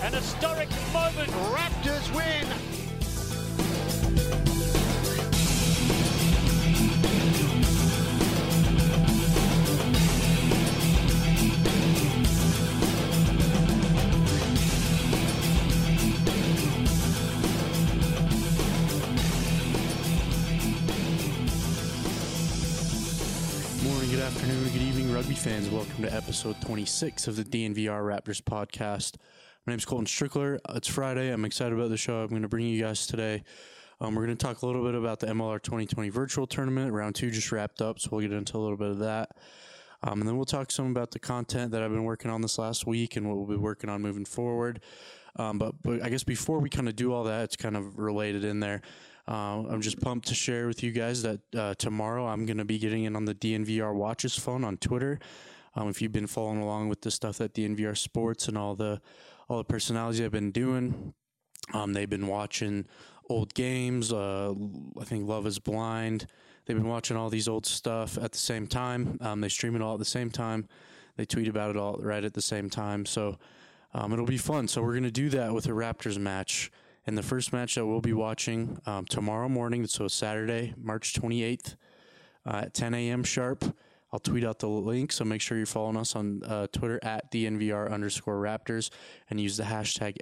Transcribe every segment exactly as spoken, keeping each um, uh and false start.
An historic moment. Raptors win. Good afternoon, good evening, rugby fans. Welcome to episode twenty-six of the D N V R Raptors podcast. My name is Colton Strickler. It's Friday. I'm excited about the show I'm going to bring you guys today. Um, we're going to talk a little bit about the M L R twenty twenty virtual tournament. Round two just wrapped up, so we'll get into a little bit of that. Um, and then we'll talk some about the content that I've been working on this last week and what we'll be working on moving forward. Um, but, but I guess before we kind of do all that, it's kind of related in there. Uh, I'm just pumped to share with you guys that uh, tomorrow I'm going to be getting in on the D N V R Watches phone on Twitter. Um, if you've been following along with the stuff at D N V R Sports and all the all the personalities I've been doing, um, they've been watching old games. Uh, I think Love is Blind. They've been watching all these old stuff at the same time. Um, they stream it all at the same time. They tweet about it all right at the same time. So um, it'll be fun. So we're going to do that with a Raptors match. And the first match that we'll be watching um, tomorrow morning, so Saturday, March twenty-eighth uh, at ten a.m. sharp. I'll tweet out the link, so make sure you're following us on uh, Twitter at D N V R underscore Raptors and use the hashtag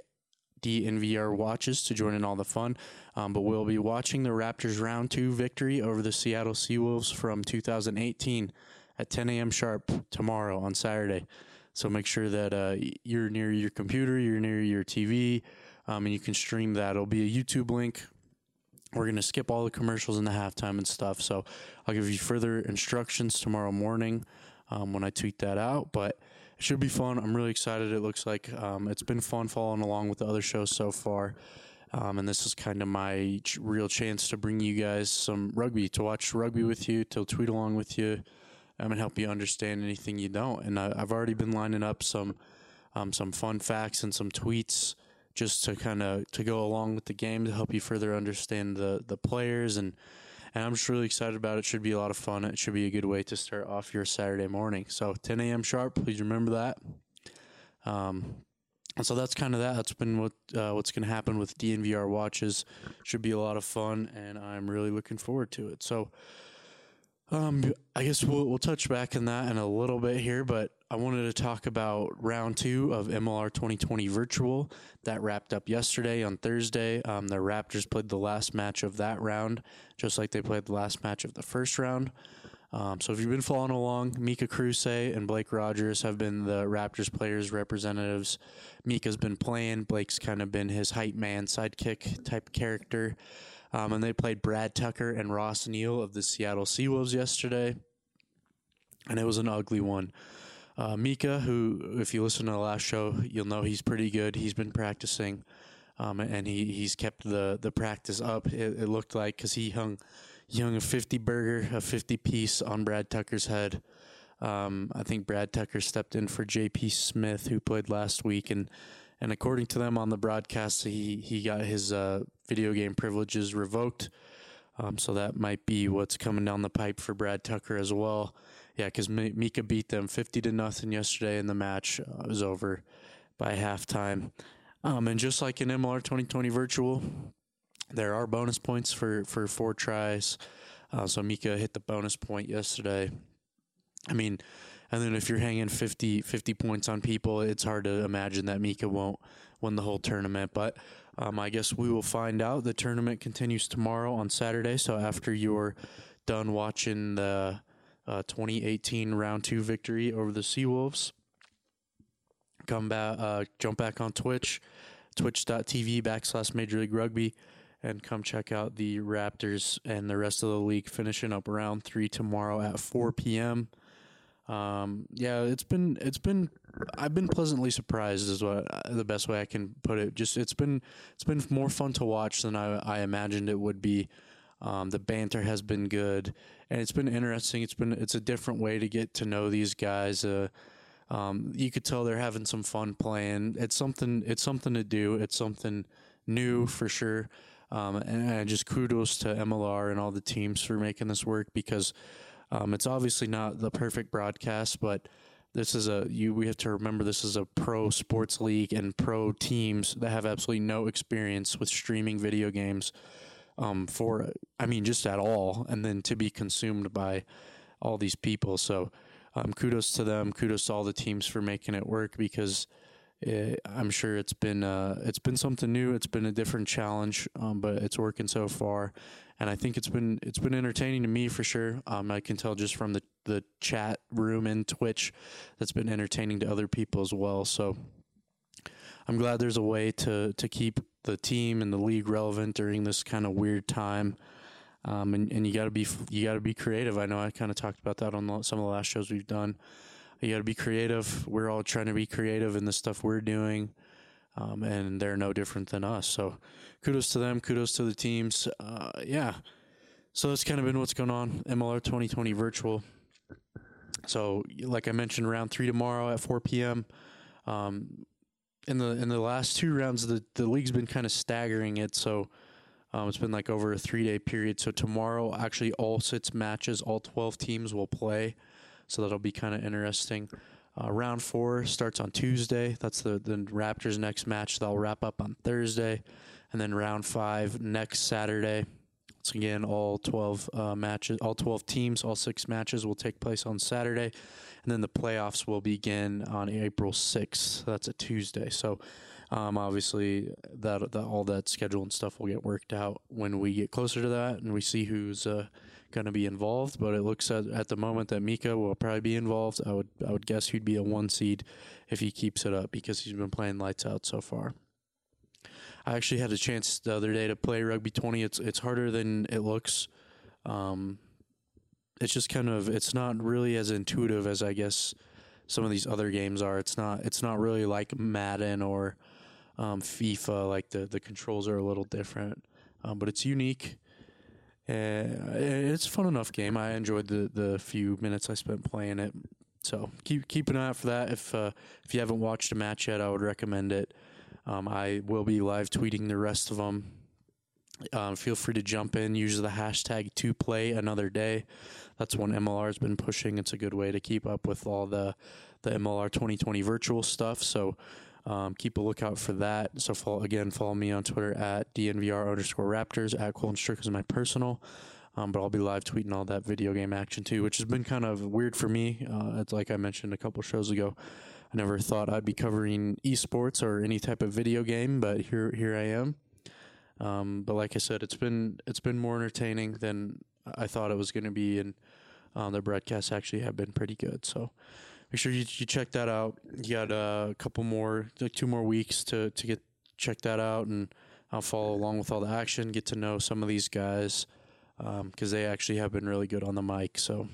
D N V R Watches to join in all the fun. Um, but we'll be watching the Raptors round two victory over the Seattle Seawolves from two thousand eighteen at ten a.m. sharp tomorrow on Saturday. So make sure that uh, you're near your computer, you're near your T V, Um, and you can stream that. It'll be a YouTube link. We're going to skip all the commercials in the halftime and stuff. So I'll give you further instructions tomorrow morning um, when I tweet that out. But it should be fun. I'm really excited. It looks like um, it's been fun following along with the other shows so far. Um, and this is kind of my ch- real chance to bring you guys some rugby, to watch rugby with you, to tweet along with you, um, and help you understand anything you don't. And I, I've already been lining up some um, some fun facts and some tweets just to kind of to go along with the game to help you further understand the the players. And, and I'm just really excited about it. It should be a lot of fun. It should be a good way to start off your Saturday morning. So ten a.m. sharp, please remember that. Um, and so that's kind of that. That's been what uh, what's going to happen with D N V R Watches. Should be a lot of fun, and I'm really looking forward to it. So um, I guess we'll, we'll touch back on that in a little bit here, but I wanted to talk about round two of M L R twenty twenty virtual. That wrapped up yesterday on Thursday. Um, the Raptors played the last match of that round, just like they played the last match of the first round. Um, so if you've been following along, Mika Kruse and Blake Rogers have been the Raptors players' representatives. Mika's been playing. Blake's kind of been his hype man, sidekick type character. Um, and they played Brad Tucker and Ross Neal of the Seattle Seawolves yesterday. And it was an ugly one. Uh, Mika, who, if you listen to the last show, you'll know he's pretty good. He's been practicing, um, and he, he's kept the, the practice up, it, it looked like, because he hung, he hung a fifty burger, a fifty piece on Brad Tucker's head. Um, I think Brad Tucker stepped in for J P Smith, who played last week, and and according to them on the broadcast, he, he got his uh, video game privileges revoked. Um, so that might be what's coming down the pipe for Brad Tucker as well. Yeah, because Mika beat them fifty to nothing yesterday, and the match uh, was over by halftime. Um, and just like in M L R twenty twenty virtual, there are bonus points for, for four tries. Uh, so Mika hit the bonus point yesterday. I mean, and then if you're hanging fifty, fifty points on people, it's hard to imagine that Mika won't win the whole tournament. But um, I guess we will find out. The tournament continues tomorrow on Saturday. So after you're done watching the Uh, twenty eighteen round two victory over the Seawolves, come back, uh, jump back on Twitch, twitch.tv backslash Major League Rugby, and come check out the Raptors and the rest of the league finishing up round three tomorrow at four p.m. Um, yeah, it's been, it's been, I've been pleasantly surprised is what uh, the best way I can put it. Just, it's been, it's been more fun to watch than I, I imagined it would be. Um, the banter has been good, and it's been interesting. It's been, it's a different way to get to know these guys. Uh, um, you could tell they're having some fun playing. It's something, it's something to do. It's something new for sure. Um, and, and just kudos to M L R and all the teams for making this work, because um, it's obviously not the perfect broadcast, but this is a you. We have to remember this is a pro sports league and pro teams that have absolutely no experience with streaming video games. Um, for I mean, just at all, and then to be consumed by all these people. So, um, kudos to them. Kudos to all the teams for making it work, because it, I'm sure it's been uh, it's been something new. It's been a different challenge, um, but it's working so far, and I think it's been it's been entertaining to me for sure. Um, I can tell just from the the chat room and Twitch that's been entertaining to other people as well. So I'm glad there's a way to to keep the team and the league relevant during this kind of weird time. Um, and, and you gotta be you gotta be creative. I know I kind of talked about that on the, some of the last shows we've done. You gotta be creative. We're all trying to be creative in the stuff we're doing, um, and they're no different than us. So, kudos to them. Kudos to the teams. Uh, yeah. So that's kind of been what's going on. M L R twenty twenty virtual. So, like I mentioned, round three tomorrow at four p.m. Um, in the in the last two rounds, the the league's been kind of staggering it. So. Um, it's been like over a three-day period. So tomorrow, actually, all six matches, all twelve teams will play. So that'll be kind of interesting. Uh, round four starts on Tuesday. That's the, the Raptors' next match. They'll wrap up on Thursday. And then round five next Saturday. Once again, all twelve uh, matches, all twelve teams, all six matches will take place on Saturday. And then the playoffs will begin on April sixth. That's a Tuesday. So Um, obviously, that, that all that schedule and stuff will get worked out when we get closer to that and we see who's uh, going to be involved. But it looks at, at the moment that Mika will probably be involved. I would I would guess he'd be a one seed if he keeps it up, because he's been playing lights out so far. I actually had a chance the other day to play Rugby twenty. It's it's harder than it looks. Um, it's just kind of it's not really as intuitive as I guess some of these other games are. It's not it's not really like Madden or Um, FIFA, like the, the controls are a little different, um, but it's unique. Uh, it's a fun enough game. I enjoyed the, the few minutes I spent playing it. So keep keep an eye out for that. If uh, if you haven't watched a match yet, I would recommend it. Um, I will be live tweeting the rest of them. Um, feel free to jump in. Use the hashtag to play another day. That's one M L R has been pushing. It's a good way to keep up with all the the M L R twenty twenty virtual stuff. So. Um, keep a lookout for that. So follow, again, follow me on Twitter at D N V R underscore Raptors, at Colton Strick is my personal. Um, but I'll be live tweeting all that video game action too, which has been kind of weird for me. Uh, it's like I mentioned a couple shows ago. I never thought I'd be covering esports or any type of video game, but here here I am. Um, but like I said, it's been it's been more entertaining than I thought it was going to be, and uh, the broadcasts actually have been pretty good. So. Make sure you, you check that out. You got uh, a couple more, like two more weeks to, to get check that out, and I'll follow along with all the action, get to know some of these guys, because um, they actually have been really good on the mic. So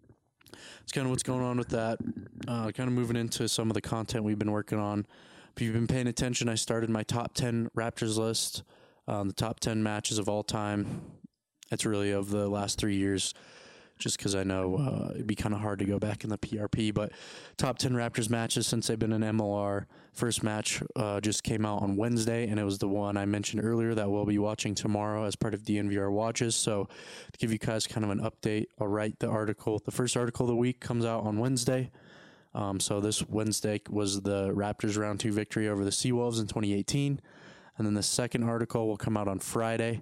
that's kind of what's going on with that. Uh, kind of moving into some of the content we've been working on. If you've been paying attention, I started my top ten Raptors list, um, the top ten matches of all time. It's really of the last three years. Just because I know uh, it'd be kind of hard to go back in the P R P. But top ten Raptors matches since they've been in M L R. First match uh, just came out on Wednesday, and it was the one I mentioned earlier that we'll be watching tomorrow as part of D N V R Watches. So to give you guys kind of an update, I'll write the article. The first article of the week comes out on Wednesday. Um, so this Wednesday was the Raptors round two victory over the Seawolves in twenty eighteen. And then the second article will come out on Friday.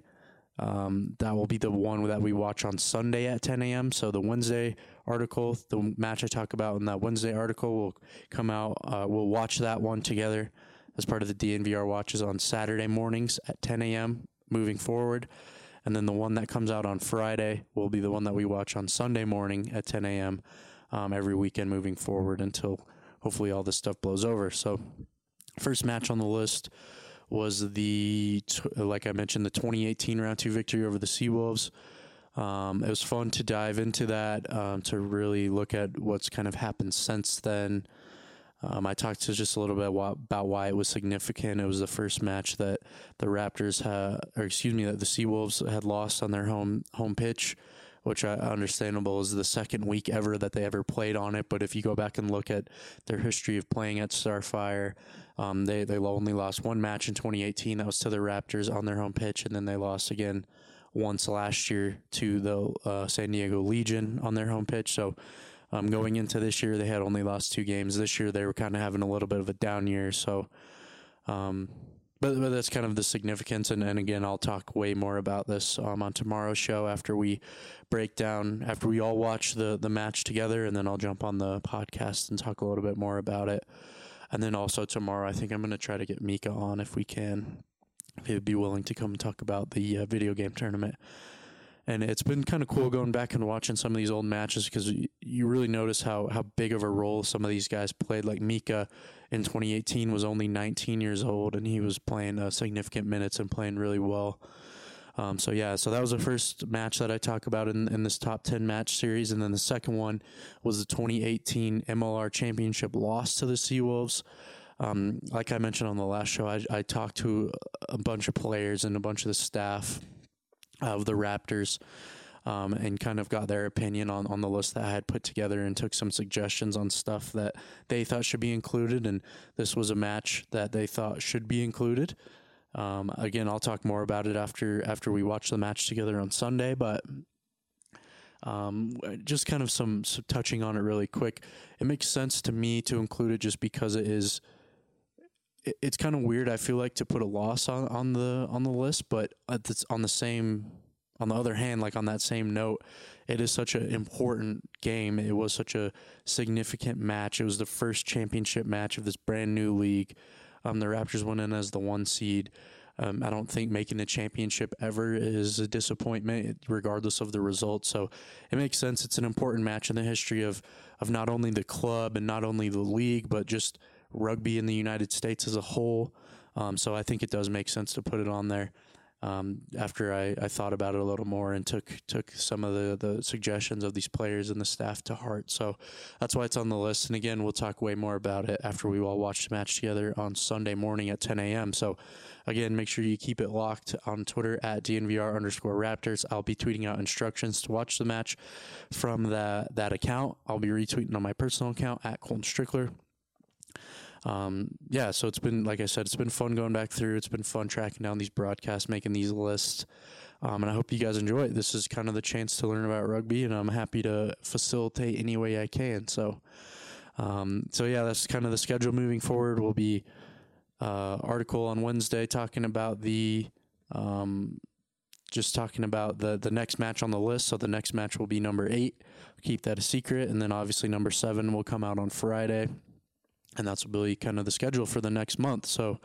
Um, that will be the one that we watch on Sunday at ten a.m. So the Wednesday article, the match I talk about in that Wednesday article will come out. Uh, we'll watch that one together as part of the D N V R watches on Saturday mornings at ten a.m. moving forward. And then the one that comes out on Friday will be the one that we watch on Sunday morning at ten a.m. Um, every weekend moving forward until hopefully all this stuff blows over. So first match on the list was the, like I mentioned, the twenty eighteen round two victory over the Seawolves. Um, it was fun to dive into that, um, to really look at what's kind of happened since then. Um, I talked to just a little bit about why it was significant. It was the first match that the Raptors had, or excuse me, that the Seawolves had lost on their home home pitch, which I understandable is the second week ever that they ever played on it. But if you go back and look at their history of playing at Starfire, um, they, they only lost one match in twenty eighteen. That was to the Raptors on their home pitch. And then they lost again once last year to the uh, San Diego Legion on their home pitch. So Um, going into this year, they had only lost two games. This year, they were kind of having a little bit of a down year. So, um, but, but that's kind of the significance. And, and again, I'll talk way more about this um, on tomorrow's show after we break down, after we all watch the, the match together, and then I'll jump on the podcast and talk a little bit more about it. And then also tomorrow, I think I'm going to try to get Mika on if we can, if he'd be willing to come and talk about the uh, video game tournament. And it's been kind of cool going back and watching some of these old matches because you really notice how, how big of a role some of these guys played. Like Mika in twenty eighteen was only nineteen years old, and he was playing uh, significant minutes and playing really well. Um, so, yeah, so that was the first match that I talk about in, in this top ten match series. And then the second one was the twenty eighteen M L R Championship loss to the Seawolves. Um, like I mentioned on the last show, I, I talked to a bunch of players and a bunch of the staff of the Raptors um, and kind of got their opinion on, on the list that I had put together and took some suggestions on stuff that they thought should be included. And this was a match that they thought should be included. Um, again, I'll talk more about it after after we watch the match together on Sunday, but um, just kind of some, some touching on it really quick. It makes sense to me to include it just because it is it's kind of weird, I feel like, to put a loss on, on the on the list, but it's on the same on the other hand, like on that same note, it is such an important game. It was such a significant match. It was the first championship match of this brand new league. Um, the Raptors went in as the one seed. Um, I don't think making a championship ever is a disappointment, regardless of the result. So it makes sense. It's an important match in the history of of not only the club and not only the league, but just rugby in the United States as a whole. Um, so I think it does make sense to put it on there um, after I, I thought about it a little more and took took some of the, the suggestions of these players and the staff to heart. So that's why it's on the list. And again, we'll talk way more about it after we all watch the match together on Sunday morning at ten a.m. So again, make sure you keep it locked on Twitter at D N V R underscore Raptors. I'll be tweeting out instructions to watch the match from that, that account. I'll be retweeting on my personal account at Colton Strickler. Um, yeah, so it's been, like I said, it's been fun going back through. It's been fun tracking down these broadcasts, making these lists. Um, and I hope you guys enjoy it. This is kind of the chance to learn about rugby, and I'm happy to facilitate any way I can. So, um, so yeah, that's kind of the schedule moving forward. Will be uh, article on Wednesday talking about the, um, just talking about the, the next match on the list. So the next match will be number eight. Keep that a secret. And then obviously number seven will come out on Friday. And that's really kind of the schedule for the next month. So,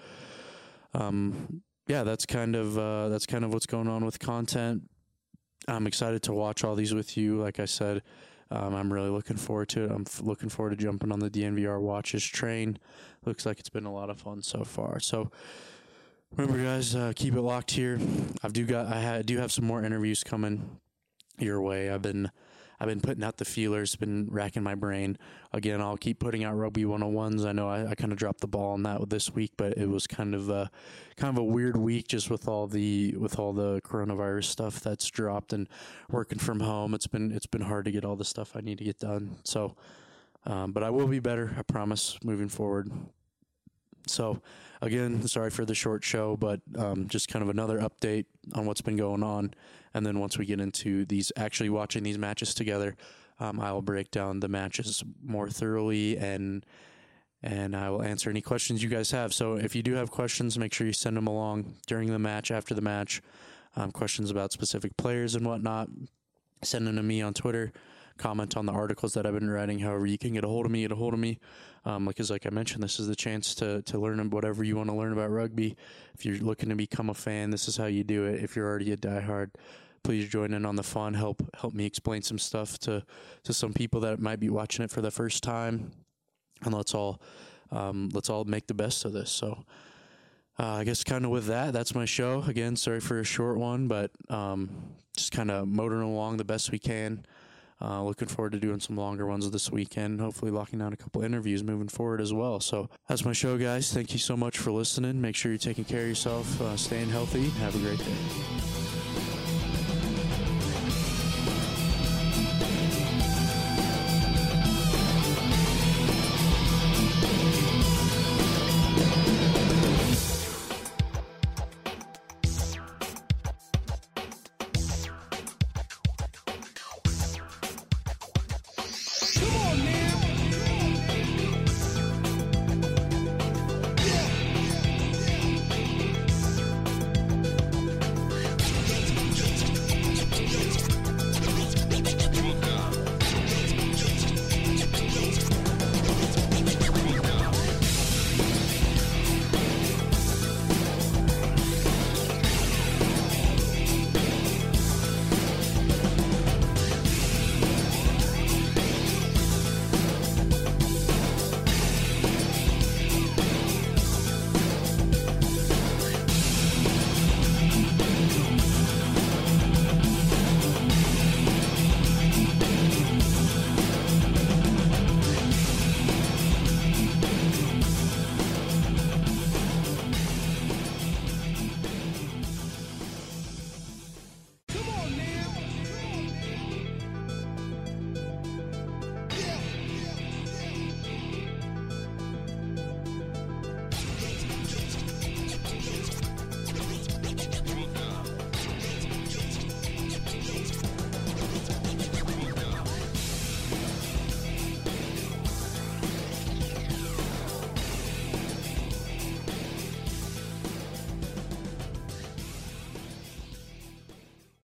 um, yeah, that's kind of uh, that's kind of what's going on with content. I'm excited to watch all these with you. Like I said, um, I'm really looking forward to it. I'm f- looking forward to jumping on the D N V R Watches train. Looks like it's been a lot of fun so far. So, remember, guys, uh, keep it locked here. I've do got I ha- do have some more interviews coming your way. I've been. I've been putting out the feelers, been racking my brain. Again, I'll keep putting out Rugby one oh ones. I know I, I kind of dropped the ball on that this week, but it was kind of a, kind of a weird week just with all the with all the coronavirus stuff that's dropped and working from home. It's been it's been hard to get all the stuff I need to get done. So, um, but I will be better, I promise, moving forward. So, again, sorry for the short show, but um, just kind of another update on what's been going on. And then once we get into these, actually watching these matches together, um, I will break down the matches more thoroughly and and I will answer any questions you guys have. So if you do have questions, make sure you send them along during the match, after the match, um, questions about specific players and whatnot. Send them to me on Twitter. Comment on the articles that I've been writing. However you can get a hold of me, get a hold of me. Um, because like I mentioned, this is the chance to to learn whatever you want to learn about rugby. If you're looking to become a fan, this is how you do it. If you're already a diehard, please join in on the fun. Help help me explain some stuff to, to some people that might be watching it for the first time. And let's all um, let's all make the best of this. So uh, I guess kind of with that, that's my show. Again, sorry for a short one, but um, just kind of motoring along the best we can. Uh, looking forward to doing some longer ones this weekend, hopefully locking down a couple interviews moving forward as well. So that's my show, guys. Thank you so much for listening. Make sure you're taking care of yourself, uh, staying healthy. Have a great day.